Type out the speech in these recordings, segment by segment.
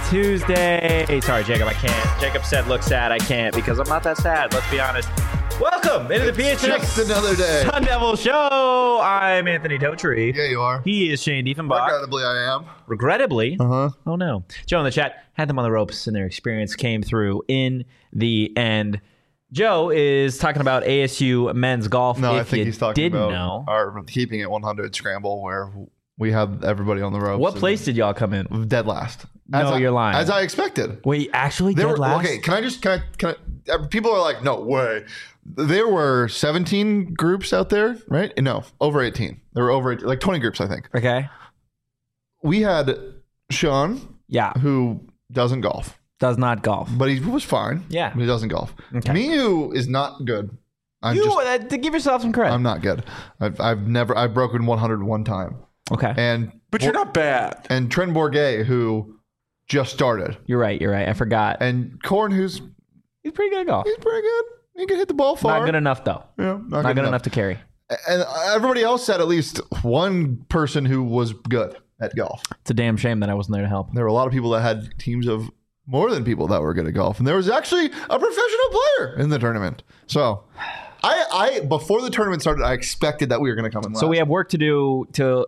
Tuesday. Sorry, Jacob, I can't. Jacob said, look sad. I can't because I'm not that sad. Let's be honest. Welcome into the PHNX Just another day. Sun Devil Show. I'm Anthony Totri. Yeah, you are. He is Shane Diefenbach. Regrettably, I am. Regrettably? Uh-huh. Oh, no. Joe in the chat had them on the ropes, and their experience came through in the end. Joe is talking about ASU men's golf. No, if I think you he's talking didn't about know. our keeping it 100 scramble where we have everybody on the ropes. What place did y'all come in? Dead last. No, you're lying. As I expected. Wait, actually dead last? Okay, can I people are like, no way. There were 17 groups out there, right? No, over 18. There were over 18, like 20 groups, I think. Okay. We had Sean, Yeah. who doesn't golf, Does not golf. but he was fine. Yeah. But he doesn't golf. Okay. Miu is not good. To give yourself some credit. I'm not good. I've broken 100 one time. Okay. But you're not bad. And Trent Bourget, who just started, You're right. I forgot. and Korn, who's He's pretty good at golf. he's pretty good. He can hit the ball far. Not good enough, though. Yeah, Not good enough to carry. And everybody else had at least one person who was good at golf. It's a damn shame that I wasn't there to help. There were a lot of people that had teams of more than people that were good at golf, and there was actually a professional player in the tournament. So, I before the tournament started, I expected that we were going to come in last. So we have work to do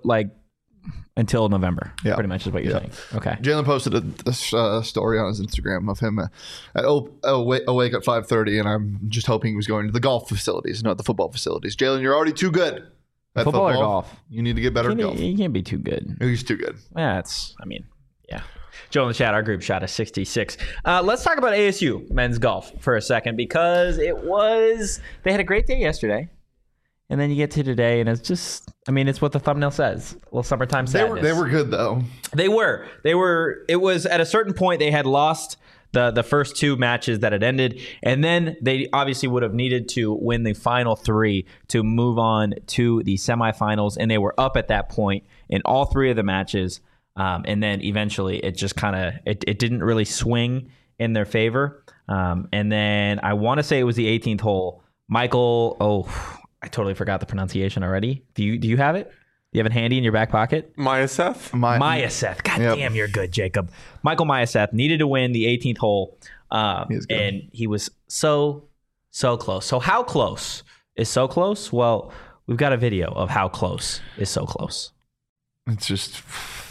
until November. Yeah. Pretty much is what you're saying. Okay. Jalen posted a story on his Instagram of him awake at 5:30, and I'm just hoping he was going to the golf facilities, not the football facilities. Jalen, you're already too good at Football or golf? You need to get better at golf. You can't be too good. He's too good. Yeah, yeah. Joe in the chat, our group shot a 66. Let's talk about ASU men's golf for a second because they had a great day yesterday. And then you get to today, and it's just, it's what the thumbnail says. A little summertime sadness. They were good, though. They were. It was at a certain point they had lost the first two matches that had ended, and then they obviously would have needed to win the final three to move on to the semifinals, and they were up at that point in all three of the matches. And then eventually it just kind of, it didn't really swing in their favor. And then I want to say it was the 18th hole. Michael, I totally forgot the pronunciation already. Do you have it? Do you have it handy in your back pocket? Myaseth? Myaseth. God damn, you're good, Jacob. Michael Myaseth needed to win the 18th hole. And he was so close. So how close is so close? Well, we've got a video of how close is so close. It's just...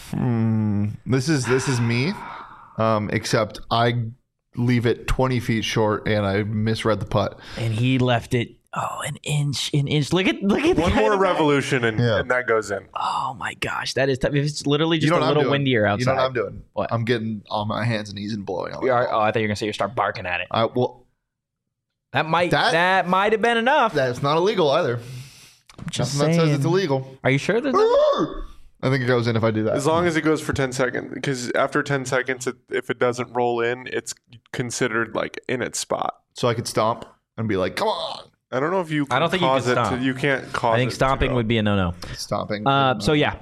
This is me, except I leave it 20 feet short and I misread the putt. And he left it an inch. Look at one more revolution and that goes in. Oh my gosh, that is tough. It's literally just a I'm little doing? windier outside. You know what I'm doing? What? I'm getting on my hands and knees and blowing on it. I thought you were gonna say you start barking at it. That might have been enough. That's not illegal either. Just Nothing saying. that says it's illegal. Are you sure there's I think it goes in if I do that. As long as it goes for 10 seconds. Because after 10 seconds, if it doesn't roll in, it's considered like in its spot. So I could stomp and be like, come on. I don't know if you can I don't think you cause can it stomp. to... You can't cause it I think stomping would be a no-no. Stomping. So yeah,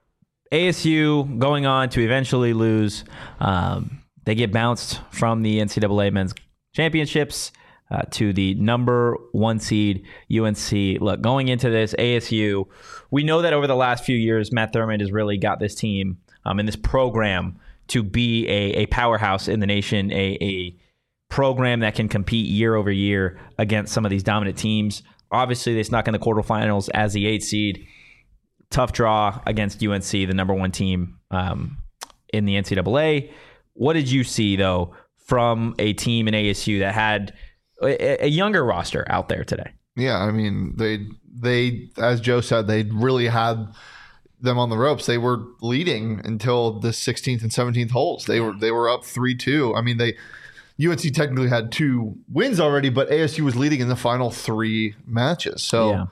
ASU going on to eventually lose. They get bounced from the NCAA men's championships to the number one seed UNC. Look, going into this ASU, we know that over the last few years, Matt Thurmond has really got this team and this program to be a powerhouse in the nation, a program that can compete year over year against some of these dominant teams. Obviously, they snuck in the quarterfinals as the 8th seed. Tough draw against UNC, the number one team in the NCAA. What did you see, though, from a team in ASU that had a younger roster out there today? Yeah, they as Joe said, they really had them on the ropes. They were leading until the 16th and 17th holes. They were up 3-2. UNC technically had 2 wins already, but ASU was leading in the final 3 matches. So,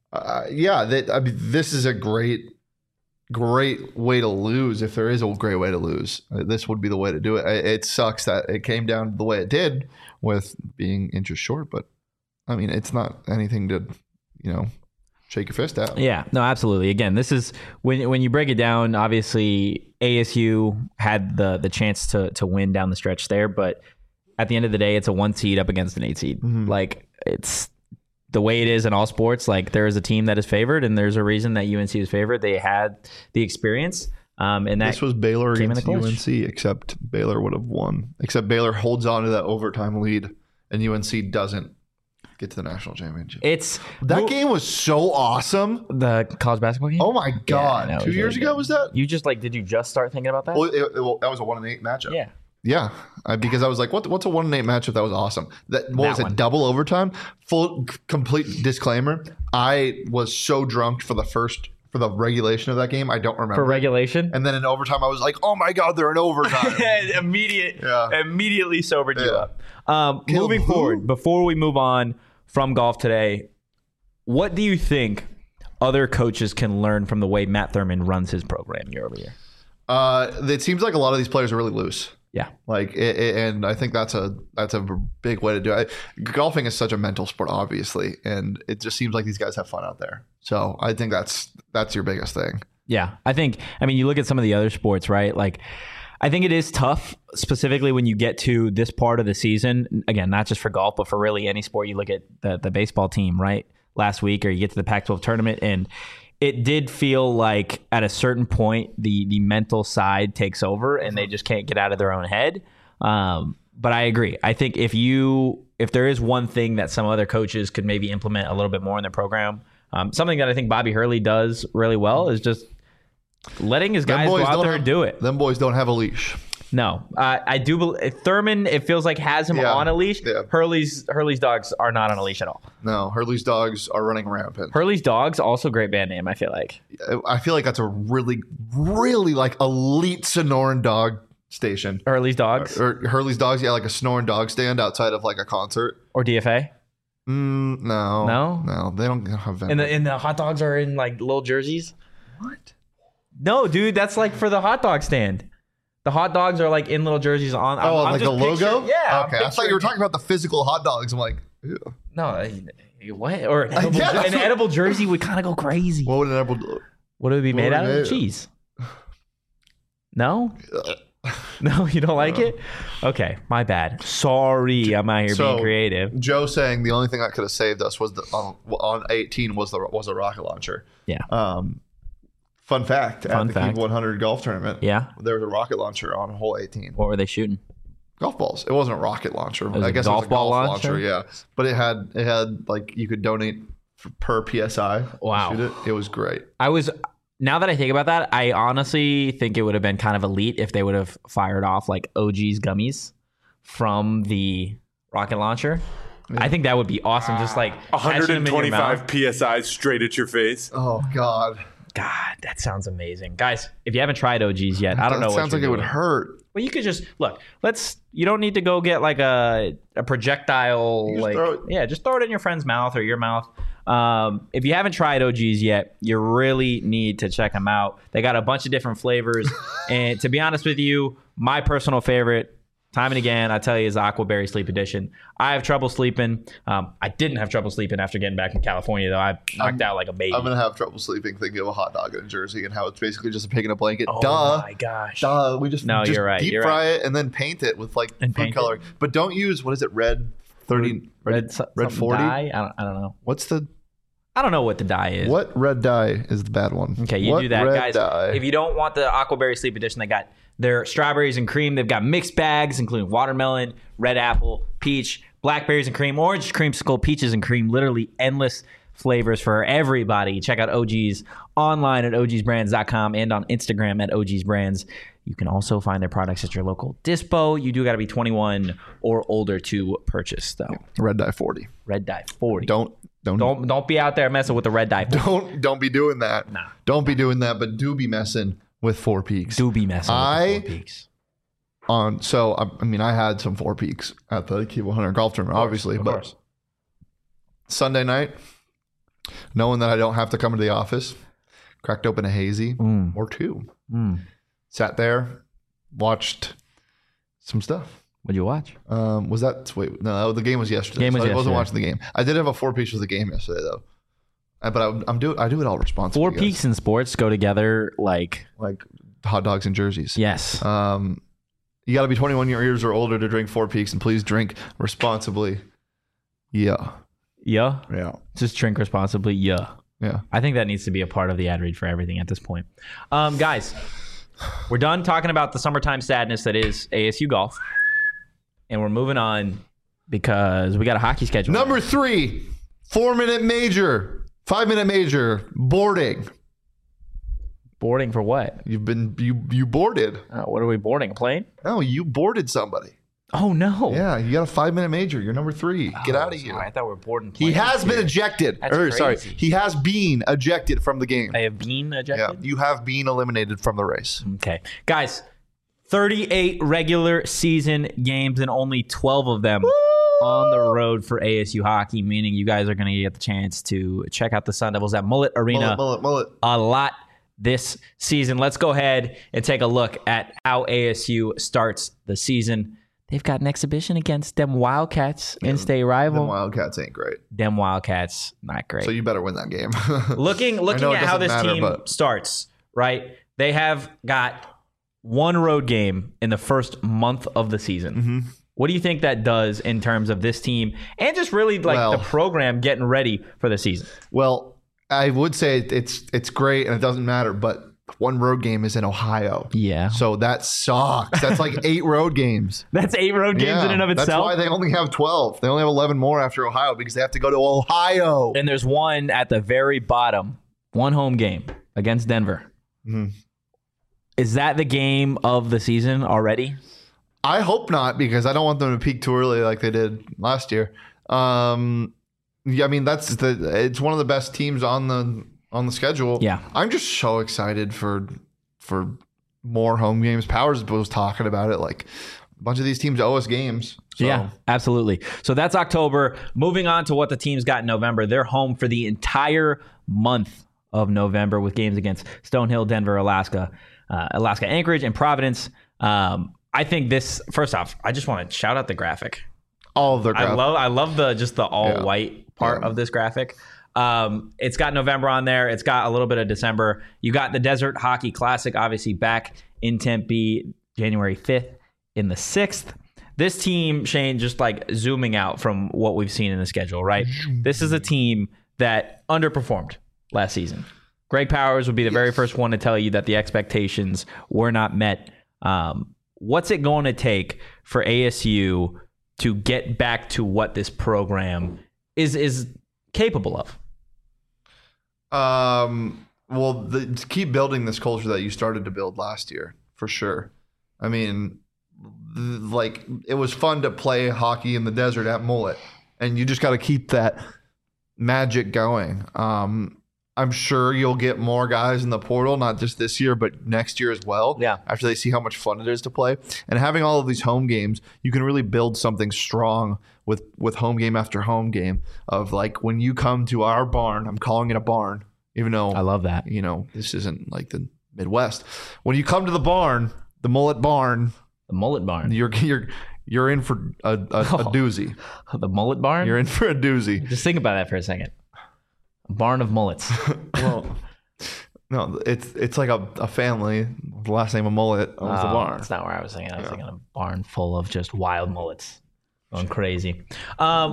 this is a great way to lose. If there is a great way to lose, this would be the way to do it. It sucks that it came down the way it did with being inches short, but it's not anything to, shake your fist at. Yeah, no, absolutely. Again, this is when you break it down, obviously ASU had the chance to win down the stretch there, but at the end of the day, it's a 1 seed up against an 8 seed. Mm-hmm. Like, it's the way it is in all sports. Like, there is a team that is favored, and there's a reason that UNC is favored. They had the experience. And that This was Baylor came in against the clutch. UNC, except Baylor would have won. Except Baylor holds on to that overtime lead, and UNC doesn't get to the national championship. That game was so awesome. The college basketball game. Oh my god! no, it was 2 years really ago good. was that? You just did you just start thinking about that? Well, that was a 1-8 matchup. Yeah. Yeah, because I was like, what's a 1-8 matchup? That was awesome. What was one. it? Double overtime. Complete disclaimer. I was so drunk for the regulation of that game. I don't remember. For regulation. And then in overtime, I was like, oh my god, they're in overtime. Immediately sobered you Yeah. up. Moving forward, before we move on from golf today, what do you think other coaches can learn from the way Matt Thurman runs his program year over year? It seems like a lot of these players are really loose. Yeah. And I think that's a big way to do it. Golfing is such a mental sport, obviously, and it just seems like these guys have fun out there. So I think that's your biggest thing. Yeah. I mean, you look at some of the other sports, right? Like, I think it is tough, specifically when you get to this part of the season. Again, not just for golf, but for really any sport. You look at the baseball team, right? Last week, or you get to the Pac-12 tournament, and it did feel like at a certain point the mental side takes over and they just can't get out of their own head. But I agree. I think if there is one thing that some other coaches could maybe implement a little bit more in their program, something that I think Bobby Hurley does really well is just letting his guys go out there and do it. Them boys don't have a leash. No, I do believe Thurman, it feels like, has him on a leash. Yeah. Hurley's dogs are not on a leash at all. No, Hurley's dogs are running rampant. Hurley's dogs, also great band name, I feel like. I feel like that's a really, really like elite Sonoran dog station. Hurley's dogs Or Hurley's dogs, yeah, like a Sonoran dog stand outside of like a concert. or DFA. No, they don't have that. And the hot dogs are in like little jerseys. What? No, dude, that's like for the hot dog stand. The hot dogs are like in little jerseys on. I'm Like just the logo? Yeah. Okay, I thought you were talking about the physical hot dogs. I'm like, ew. No, what? Or an edible, an edible jersey would kind of go crazy. What would an edible do? What would it be made out of? Cheese. No? No, you don't like it? Okay, my bad. Sorry, I'm out here being creative. Joe saying the only thing that could have saved us was on 18 was a rocket launcher. Yeah. Fun fact: at the Keep 100 golf tournament, yeah, there was a rocket launcher on hole 18. What were they shooting? Golf balls. It wasn't a rocket launcher. I guess golf it was a ball golf launcher? Yeah, but it had like you could donate per psi. Wow. To shoot it. It was great. Now that I think about that, I honestly think it would have been kind of elite if they would have fired off like OG's gummies from the rocket launcher. Yeah. I think that would be awesome. Just like 125 psi straight at your face. Oh God. God, that sounds amazing, guys. If you haven't tried OGs yet, I don't know. What sounds like it would hurt. Well, you could just look. You don't need to go get like a projectile. Just throw it in your friend's mouth or your mouth. If you haven't tried OGs yet, you really need to check them out. They got a bunch of different flavors, and to be honest with you, my personal favorite, time and again, I tell you, is Aquaberry Sleep Edition. I have trouble sleeping. I didn't have trouble sleeping after getting back in California, though. I knocked out like a baby. I'm going to have trouble sleeping thinking of a hot dog in a jersey and how it's basically just a pig in a blanket. Oh, my gosh. Duh. We just you're right. Deep fry it and then paint it with like food coloring. But don't use, what is it, red 30? Red 40? Dye? I don't know. I don't know what the dye is. What red dye is the bad one? Okay, you do that, guys. Dye? If you don't want the Aquaberry Sleep Edition, they got their strawberries and cream. They've got mixed bags, including watermelon, red apple, peach, blackberries and cream, orange creamsicle, peaches and cream. Literally endless flavors for everybody. Check out OG's online at ogsbrands.com and on Instagram at ogsbrands. You can also find their products at your local dispo. You do got to be 21 or older to purchase, though. Red dye 40. Red dye 40. Don't be out there messing with the red dye 40. Don't be doing that. Nah. Don't be doing that, but do be messing with Four Peaks. Do be messing with the Four Peaks. I had some Four Peaks at the Keep 100 golf tournament, obviously, but Sunday night, knowing that I don't have to come to the office, cracked open a hazy or two. Sat there, watched some stuff. What'd you watch? The game was yesterday. I wasn't watching the game. I did have a Four Peaks with the game yesterday, though. But I do it all responsibly. Four Peaks and sports go together like hot dogs and jerseys. Yes. You got to be 21 years or older to drink Four Peaks, and please drink responsibly. Yeah. Just drink responsibly. Yeah. I think that needs to be a part of the ad read for everything at this point. Guys, we're done talking about the summertime sadness that is ASU golf. And we're moving on because we got a hockey schedule. Number 3, 4-minute major, 5-minute major, boarding. Boarding for what? You boarded. What are we boarding? A plane? No, you boarded somebody. Oh, no. Yeah, you got a 5-minute major. You're number 3. Get out of here. I thought we were boarding planes. He has been ejected. That's crazy. He has been ejected from the game. I have been ejected? Yeah, you have been eliminated from the race. Okay. Guys, 38 regular season games and only 12 of them on the road for ASU hockey, meaning you guys are going to get the chance to check out the Sun Devils at Mullet Arena Mullet. a lot this season. Let's go ahead and take a look at how ASU starts the season. They've got an exhibition against them Wildcats, in-state rival. Them Wildcats ain't great. Them Wildcats, not great. So you better win that game. Looking at how this team starts, right? They have got one road game in the first month of the season. Mm-hmm. What do you think that does in terms of this team and just really the program getting ready for the season? Well, I would say it's great and it doesn't matter, but one road game is in Ohio. Yeah. So that sucks. That's like 8 road games. That's 8 road games in and of itself. That's why they only have 12. They only have 11 more after Ohio because they have to go to Ohio. And there's one at the very bottom, one home game against Denver. Mm-hmm. Is that the game of the season already? I hope not because I don't want them to peak too early like they did last year. Yeah, I mean it's one of the best teams on the schedule. Yeah. I'm just so excited for more home games. Powers was talking about it. Like a bunch of these teams owe us games. So. Yeah, absolutely. So that's October. Moving on to what the team's got in November. They're home for the entire month of November with games against Stonehill, Denver, Alaska Anchorage, and Providence. I think this, first off, I just want to shout out the graphic. All of their graphic. I love the all white part of this graphic. It's got November on there. It's got a little bit of December. You got the Desert Hockey Classic, obviously back in Tempe, January 5th in the 6th. This team, Shane, just like zooming out from what we've seen in the schedule, right? This is a team that underperformed last season. Greg Powers would be the very first one to tell you that the expectations were not met. What's it going to take for ASU to get back to what this program is capable of? To keep building this culture that you started to build last year, for sure. I mean, like it was fun to play hockey in the desert at Mullet, and you just got to keep that magic going. I'm sure you'll get more guys in the portal, not just this year, but next year as well. Yeah. After they see how much fun it is to play. And having all of these home games, you can really build something strong with home game after home game of like when you come to our barn, I'm calling it a barn, even though I love that. You know, this isn't like the Midwest. When you come to the barn, the Mullet Barn. The Mullet Barn. You're in for a doozy. The Mullet Barn? You're in for a doozy. Just think about that for a second. Barn of mullets. Well, no, it's like a family. The last name of Mullet owns the barn. That's not where I was thinking. I was thinking a barn full of just wild mullets going crazy. Oh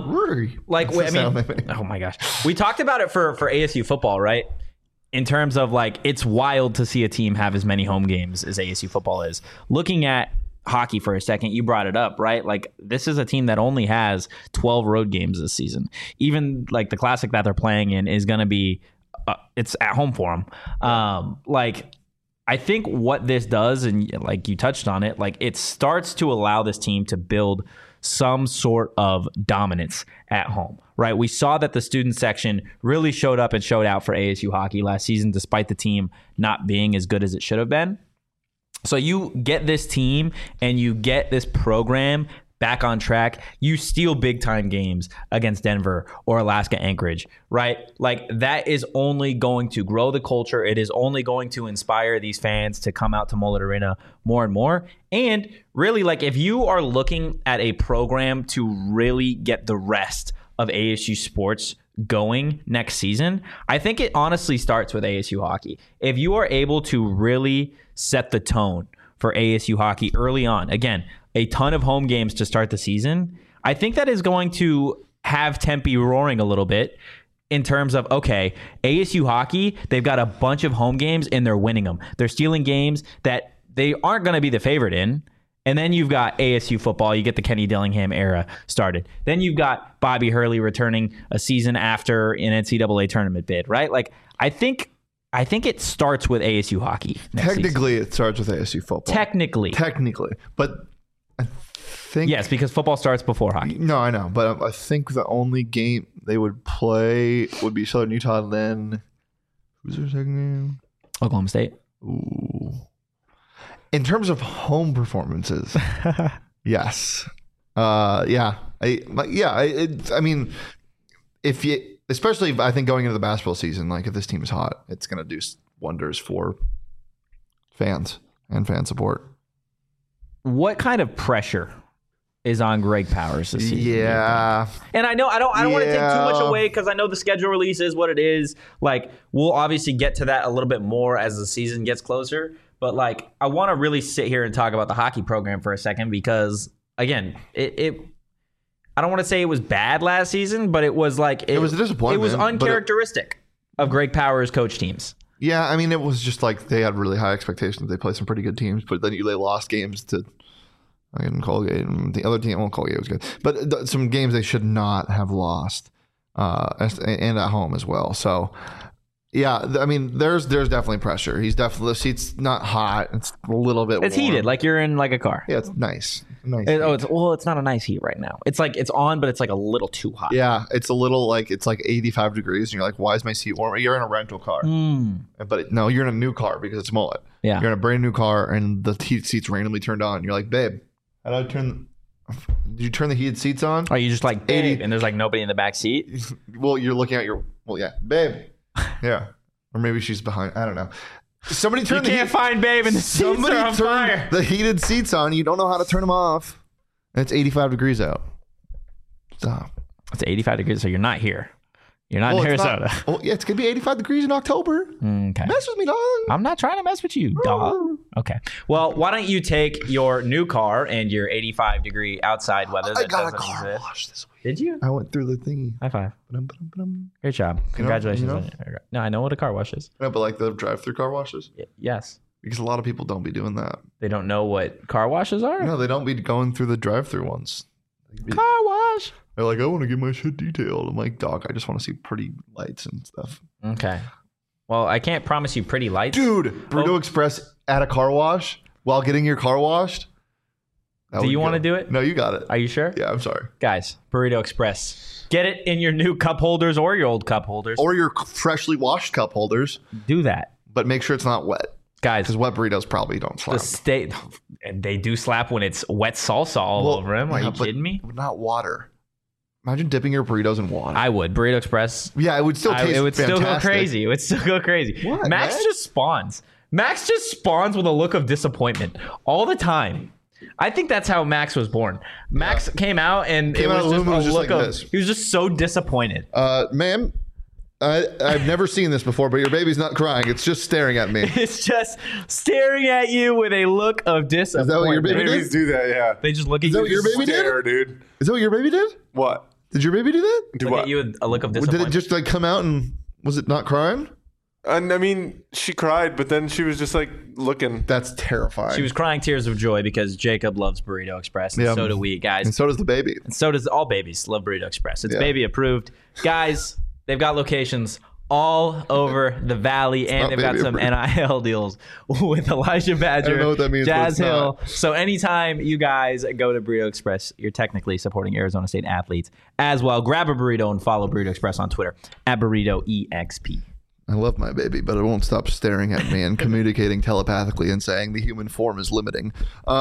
my gosh, we talked about it for ASU football, right? In terms of like, it's wild to see a team have as many home games as ASU football is. Looking at hockey for a second, you brought it up, right? Like this is a team that only has 12 road games this season. Even like the classic that they're playing in is going to be it's at home for them. Like I think what this does, and like you touched on it, like it starts to allow this team to build some sort of dominance at home, right? We saw that the student section really showed up and showed out for ASU hockey last season, despite the team not being as good as it should have been. So you get this team and you get this program back on track. You steal big time games against Denver or Alaska Anchorage, right? Like that is only going to grow the culture. It is only going to inspire these fans to come out to Mullet Arena more and more. And really, like if you are looking at a program to really get the rest of ASU sports going next season, I think it honestly starts with ASU hockey. If you are able to really set the tone for ASU hockey early on, again, a ton of home games to start the season, I think that is going to have Tempe roaring a little bit in terms of, okay, ASU hockey, they've got a bunch of home games and they're winning them. They're stealing games that they aren't going to be the favorite in. And then you've got ASU football. You get the Kenny Dillingham era started. Then you've got Bobby Hurley returning a season after an NCAA tournament bid, right? Like, I think it starts with ASU hockey. Technically, it starts with ASU football. Technically. But I think... Yes, because football starts before hockey. No, I know. But I think the only game they would play would be Southern Utah, and then... Who's their second game? Oklahoma State. Ooh. In terms of home performances, yes. I mean, if you, especially I think going into the basketball season, like if this team is hot, it's going to do wonders for fans and fan support. What kind of pressure is on Greg Powers this season? Yeah. And I know I don't want to take too much away because I know the schedule release is what it is. Like, we'll obviously get to that a little bit more as the season gets closer. But, like, I want to really sit here and talk about the hockey program for a second because, again, I don't want to say it was bad last season, but it was like... It was a disappointment. It was uncharacteristic of Greg Powers' coach teams. Yeah, I mean, it was just like they had really high expectations. They played some pretty good teams, but then they lost games to... I didn't Colgate. The other team, well, Colgate was good. But some games they should not have lost, and at home as well. So... Yeah, I mean, there's definitely pressure. He's definitely, the seat's not hot. It's a little bit It's warm. heated, like you're in like a car. Yeah, it's nice. It's not a nice heat right now. It's like it's on, but it's like a little too hot. Yeah, it's a little like it's like 85 degrees, and you're like, why is my seat warm? You're in a rental car, but no, you're in a new car because it's mullet. Yeah, you're in a brand new car, and the heated seats randomly turned on. You're like, babe, how do I turn? Did you turn the heated seats on? Are you just like babe, 80, and there's like nobody in the back seat? Well, you're looking at babe. Yeah. Or maybe she's behind. I don't know. Somebody turn You can't find babe and the seats are on fire. The heated seats on. You don't know how to turn them off. And it's 85 degrees out. Stop. It's 85 degrees, so you're not here. You're not in Arizona. It's going to be 85 degrees in October. Okay. Mess with me, dog. I'm not trying to mess with you, dog. Okay. Well, why don't you take your new car and your 85 degree outside weather that I got a doesn't car exist. wash this week. Did you? I went through the thingy. High five. Ba-dum. Great job. Congratulations. You know? No, I know what a car wash is. No, but like the drive-through car washes? Yes. Because a lot of people don't be doing that. They don't know what car washes are? No, they don't be going through the drive-through ones. Car wash. They're like, I want to get my shit detailed. I'm like, dog, I just want to see pretty lights and stuff. Okay. Well, I can't promise you pretty lights. Dude, Burrito Express at a car wash while getting your car washed. Do you want to do it? No, you got it. Are you sure? Yeah, I'm sorry. Guys, Burrito Express. Get it in your new cup holders or your old cup holders. Or your freshly washed cup holders. Do that. But make sure it's not wet. Guys. Because wet burritos probably don't slap. They do slap when it's wet salsa all over them. Are you kidding me? Not water. Imagine dipping your burritos in water. I would. Burrito Express. Yeah, it would still taste It would fantastic. still go crazy. It would still go crazy. What, Max man? just spawns. Max just spawns with a look of disappointment all the time. I think that's how Max was born. Max came out and it was just a look of... He was just so disappointed. Ma'am, I've never seen this before, but your baby's not crying. It's just staring at me. It's just staring at you with a look of disappointment. Is that what your baby Babies do that, yeah. They just look at Is that you. what your baby Stare, did? dude. Is that what your baby did? What? Did your baby do that? Do Look what? at you with a look of Did disappointment. it just like come out and was it not crying? And I mean, she cried, but then she was just like looking. That's terrifying. She was crying tears of joy because Jacob loves Burrito Express, and Yeah. so do we, guys. And so does the baby. And so does all babies love Burrito Express. It's Yeah. baby approved. Guys, they've got locations all over the valley, and not they've got baby some approved. NIL deals with Elijah Badger, I don't know what that means, but Jazz it's Hill. not. So anytime you guys go to Burrito Express, you're technically supporting Arizona State athletes as well. Grab a burrito and follow Burrito Express on Twitter at BurritoEXP. I love my baby, but it won't stop staring at me and communicating telepathically and saying the human form is limiting.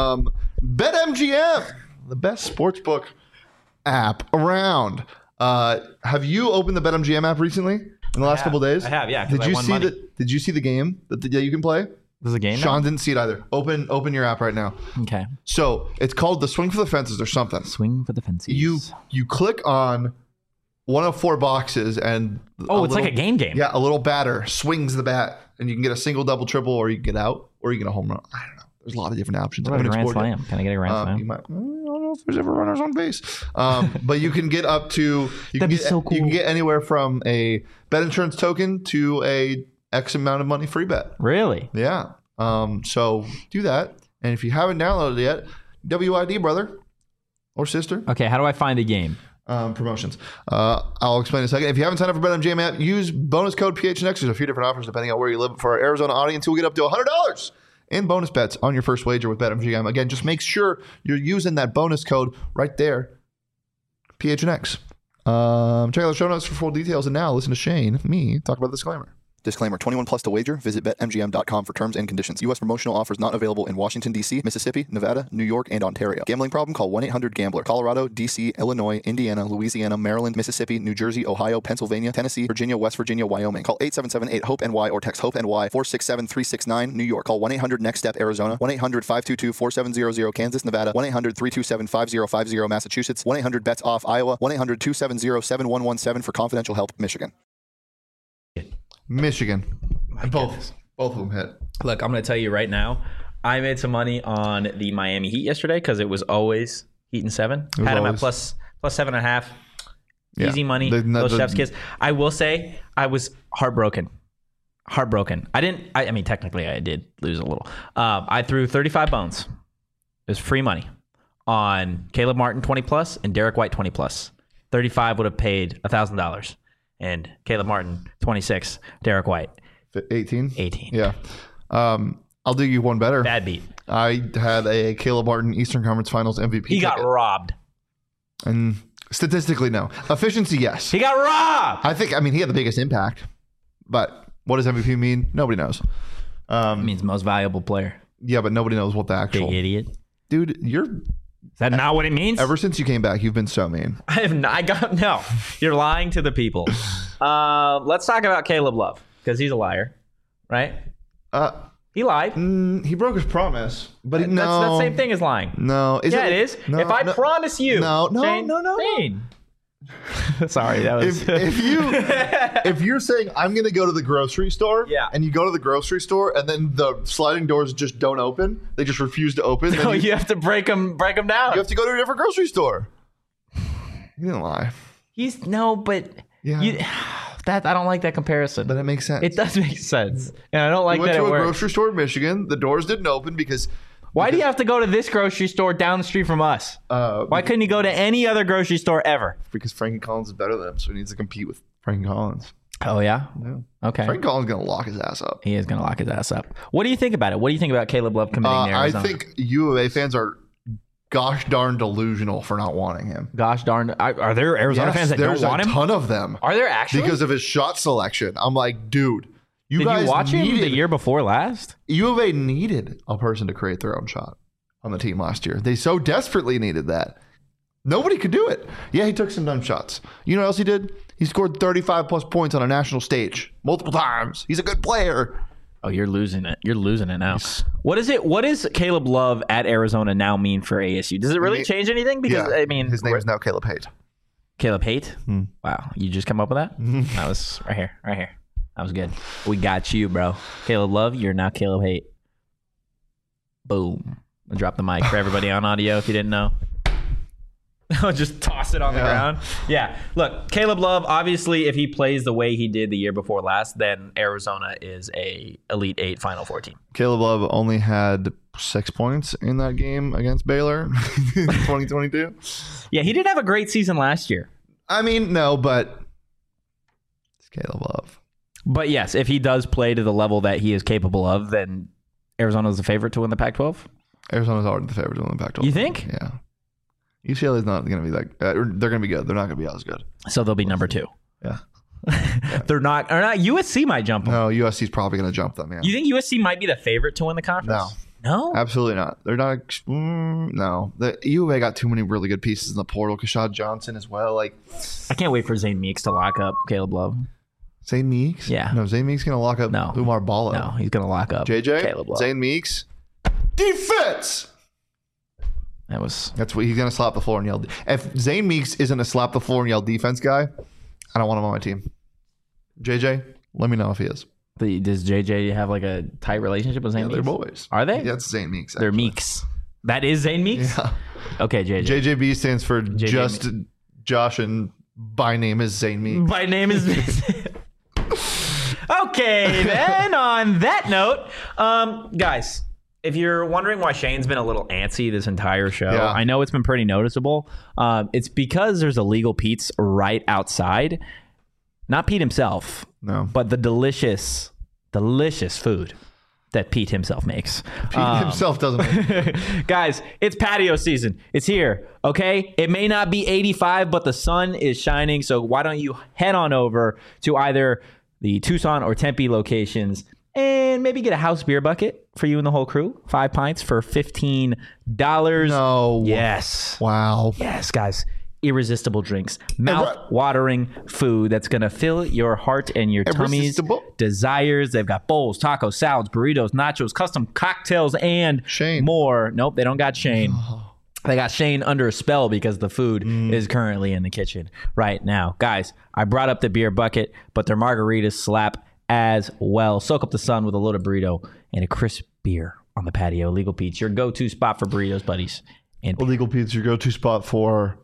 BetMGM, the best sportsbook app around. Have you opened the BetMGM app recently in the last couple days? I have, yeah. 'cause Did I you won see money. Did you see the game that you can play? There's a game now? Sean didn't see it either. Open your app right now. Okay. So it's called the Swing for the Fences or something. Swing for the fences. You click on one of 4 boxes and it's like a game. Yeah, a little batter swings the bat, and you can get a single, double, triple, or you can get out, or you can get a home run. I don't know. There's a lot of different options. What about a I haven't grand explored slam? Can I get a grand it. slam? You might. I don't know if there's ever runners on base, but you can get up to. That'd be so cool. You can get anywhere from a bet insurance token to a X amount of money free bet. Really? Yeah. So do that. And if you haven't downloaded it yet, WID, brother or sister. Okay, how do I find the game? Promotions. I'll explain in a second. If you haven't signed up for BetMGM app, use bonus code PHNX. There's a few different offers depending on where you live. For our Arizona audience, you'll get up to $100 in bonus bets on your first wager with BetMGM. Again, just make sure you're using that bonus code right there, PHNX. Check out the show notes for full details. And now listen to Shane, me, talk about the disclaimer. Disclaimer, 21 plus to wager. Visit BetMGM.com for terms and conditions. U.S. promotional offers not available in Washington, D.C., Mississippi, Nevada, New York, and Ontario. Gambling problem? Call 1-800-GAMBLER. Colorado, D.C., Illinois, Indiana, Louisiana, Maryland, Mississippi, New Jersey, Ohio, Pennsylvania, Tennessee, Virginia, West Virginia, Wyoming. Call 877-8-HOPE-NY or text HOPE-NY 467-369, New York. Call 1-800-NEXT-STEP, Arizona. 1-800-522-4700, Kansas, Nevada. 1-800-327-5050, Massachusetts. 1-800-BETS-OFF, Iowa. 1-800-270-7117 for confidential help, Michigan. Michigan. And both of them hit. Look, I'm going to tell you right now, I made some money on the Miami Heat yesterday because it was always Heat and 7. Had them at plus 7.5. Yeah. Easy money. Those chef's kiss. I will say I was heartbroken. I mean, technically I did lose a little. I threw 35 bones. It was free money on Caleb Martin 20 plus and Derek White 20 plus. 35 would have paid $1,000. And Caleb Martin, 26. Derek White, 18? 18. Yeah. I'll do you one better. Bad beat. I had a Caleb Martin Eastern Conference Finals MVP. He got robbed. And statistically, no. Efficiency, yes. He got robbed. I mean, he had the biggest impact. But what does MVP mean? Nobody knows. It means most valuable player. Yeah, but nobody knows what the actual... Big idiot. Dude, Is that not what it means? Ever since you came back, you've been so mean. I have not. No, you're lying to the people. Let's talk about Caleb Love because he's a liar, right? He lied. He broke his promise, but That's the same thing as lying. No, it is. No, if I promise you, no. Shane. Sorry, that was. If you're saying I'm going to go to the grocery store, yeah, and you go to the grocery store, and then the sliding doors just don't open, they just refuse to open. No, you have to break them down. You have to go to a different grocery store. You didn't lie. I don't like that comparison. But it makes sense. It does make sense, and I don't like that. You went to a grocery store in Michigan. The doors didn't open because. Why do you have to go to this grocery store down the street from us? Why couldn't he go to any other grocery store ever? Because Frankie Collins is better than him, so he needs to compete with Frankie Collins. Oh, yeah? Okay. Frankie Collins is going to lock his ass up. He is going to lock his ass up. What do you think about it? What do you think about Caleb Love committing to Arizona? I think U of A fans are gosh darn delusional for not wanting him. Gosh darn. Are there Arizona fans that don't want him? There's a ton of them. Are there actually? Because of his shot selection. I'm like, dude. Did you watch him the year before last? U of A needed a person to create their own shot on the team last year. They so desperately needed that. Nobody could do it. Yeah, he took some dumb shots. You know what else he did? He scored 35 plus points on a national stage multiple times. He's a good player. Oh, you're losing it. You're losing it now. What does Caleb Love at Arizona now mean for ASU? Does it really change anything? Because I mean, his name is now Caleb Haight. Caleb Haight? Wow. You just come up with that? That was right here. That was good. We got you, bro. Caleb Love, you're now Caleb Haight. Boom. I'll drop the mic for everybody on audio if you didn't know. I'll just toss it on the ground. Yeah. Look, Caleb Love, obviously, if he plays the way he did the year before last, then Arizona is a Elite 8 Final Four team. Caleb Love only had 6 points in that game against Baylor in 2022. Yeah, he didn't have a great season last year. I mean, no, but it's Caleb Love. But yes, if he does play to the level that he is capable of, then Arizona's the favorite to win the Pac-12? Arizona's already the favorite to win the Pac-12. You think? Yeah. UCLA is not going to be like they're going to be good. They're not going to be as good. So they'll be number 2. Yeah. They're not. Or not. USC might jump them. No, USC's probably going to jump them. Yeah. You think USC might be the favorite to win the conference? No, absolutely not. They're not. No, the U of A got too many really good pieces in the portal. Kashad Johnson as well. Like, I can't wait for Zane Meeks to lock up Caleb Love. Zane Meeks? Yeah. No, Zane Meeks going to lock up Umar Ballo. No, he's going to lock up Caleb Love. Zane Meeks. Defense. That's what he's going to slap the floor and yell. If Zane Meeks isn't a slap the floor and yell defense guy, I don't want him on my team. JJ, let me know if he is. Does JJ have like a tight relationship with Zane Meeks? They're boys. Are they? Yeah, that's Zane Meeks. They're Meeks. That is Zane Meeks? Yeah. Okay, JJ. JJB stands for just Josh, and by name is Zane Meeks. By name is All Okay, then on that note, guys, if you're wondering why Shane's been a little antsy this entire show, Yeah. I know it's been pretty noticeable. It's because there's Illegal Pete's right outside. Not Pete himself, No. but the delicious food that Pete himself makes. Pete himself doesn't make Guys, it's patio season. It's here, okay? It may not be 85, but the sun is shining. So why don't you head on over to either the Tucson or Tempe locations and maybe get a house beer bucket for you and the whole crew. 5 pints for $15. No. Yes. Wow. Yes, guys. Irresistible drinks, mouth-watering food that's going to fill your heart and your tummy's Irresistible. desires. They've got bowls, tacos, salads, burritos, nachos, custom cocktails, and Shane. more. Nope, they don't got Shane. They got Shane under a spell because the food is currently in the kitchen right now. Guys, I brought up the beer bucket, but their margaritas slap as well. Soak up the sun with a loaded burrito and a crisp beer on the patio. Illegal Pete's, your go-to spot for burritos, buddies. And Illegal Pete's, your go-to spot for.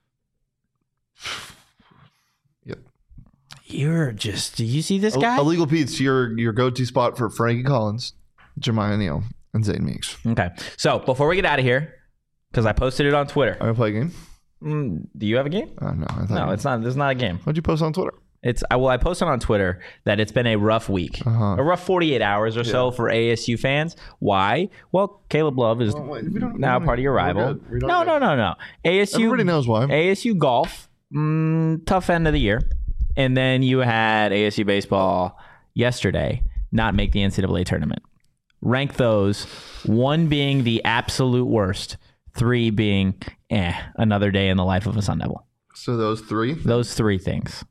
Yep. you're just, do you see this guy? Illegal Pete's, your go-to spot for Frankie Collins, Jemiah Neal, and Zane Meeks. Okay. So before we get out of here, because I posted it on Twitter. I'm gonna play a game. Do you have a game? No, I thought No, it's not. There's not a game. What'd you post on Twitter? I posted on Twitter that it's been a rough week, a rough 48 hours or so for ASU fans. Why? Well, Caleb Love is now part of your rival. No. ASU. Everybody knows why. ASU golf, tough end of the year, and then you had ASU baseball yesterday not make the NCAA tournament. Rank those, 1 being the absolute worst, 3 being another day in the life of a Sun Devil. So those three. Those 3 things.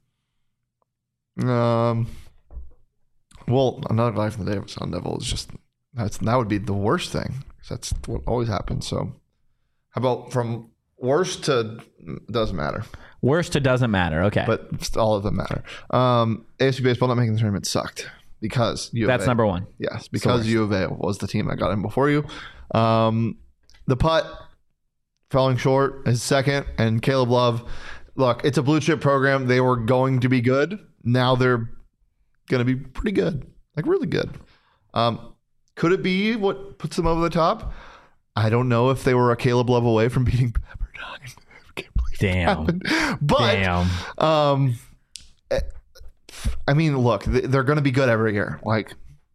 Well, another life in the day of a Sun Devil is just that would be the worst thing. That's what always happens. So, how about from worst to doesn't matter, Worst to doesn't matter. Okay. but all of them matter. ASU baseball not making the tournament sucked because U of That's A. number 1. Yes, because U of A was the team that got in before you. The putt falling short is second, and Caleb Love. Look, it's a blue chip program. They were going to be good. Now they're going to be pretty good, like really good. Could it be what puts them over the top? I don't know if they were a Caleb Love away from beating Pepperdine. I can't believe Damn. that happened. But Damn. I mean, look, they're going to be good every year. Like,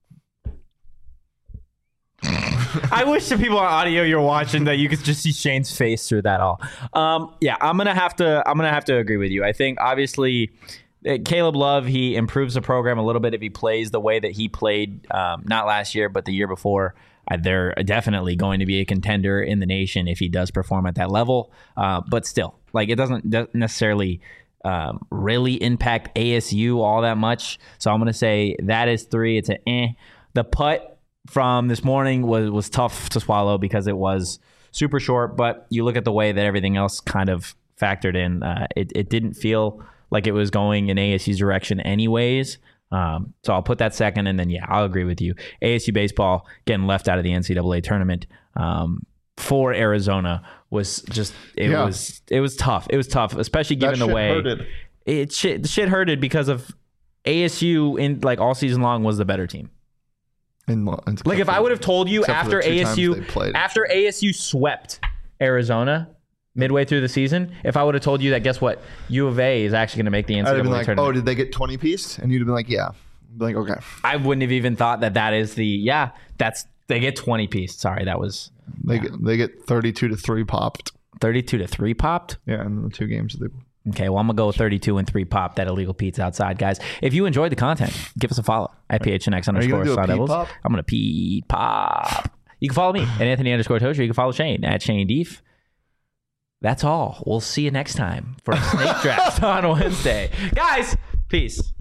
I wish the people on audio you're watching that you could just see Shane's face through that all. Yeah, I'm gonna have to agree with you. I think obviously Caleb Love, he improves the program a little bit if he plays the way that he played not last year but the year before. They're definitely going to be a contender in the nation if he does perform at that level. But still, like it doesn't necessarily really impact ASU all that much. So I'm gonna say that is 3. It's an The putt from this morning was tough to swallow because it was super short, but you look at the way that everything else kind of factored in. It didn't feel like it was going in ASU's direction anyways. So I'll put that second, and then, yeah, I'll agree with you. ASU baseball getting left out of the NCAA tournament for Arizona was just, it was tough. It was tough, especially given the way the shit hurted because of ASU in like all season long was the better team. Like if I would have told you after ASU swept Arizona midway through the season, if I would have told you that, guess what, U of A is actually going to make the NCAA I'd have been like, tournament. oh, did they get 20 piece? And you'd have been like, yeah. I'd be like, okay. I wouldn't have even thought that is they get 20 piece. Sorry, that was They get 32-3 popped. 32-3 popped. Yeah, in the 2 games that they. Okay, well, I'm going to go 32-3 pop that Illegal Pete's outside, guys. If you enjoyed the content, give us a follow at PHNX_Sun Devils. I'm going to Pete Pop. You can follow me at Anthony_Tozer. You can follow Shane at Shane Deef. That's all. We'll see you next time for a snake draft on Wednesday. Guys, peace.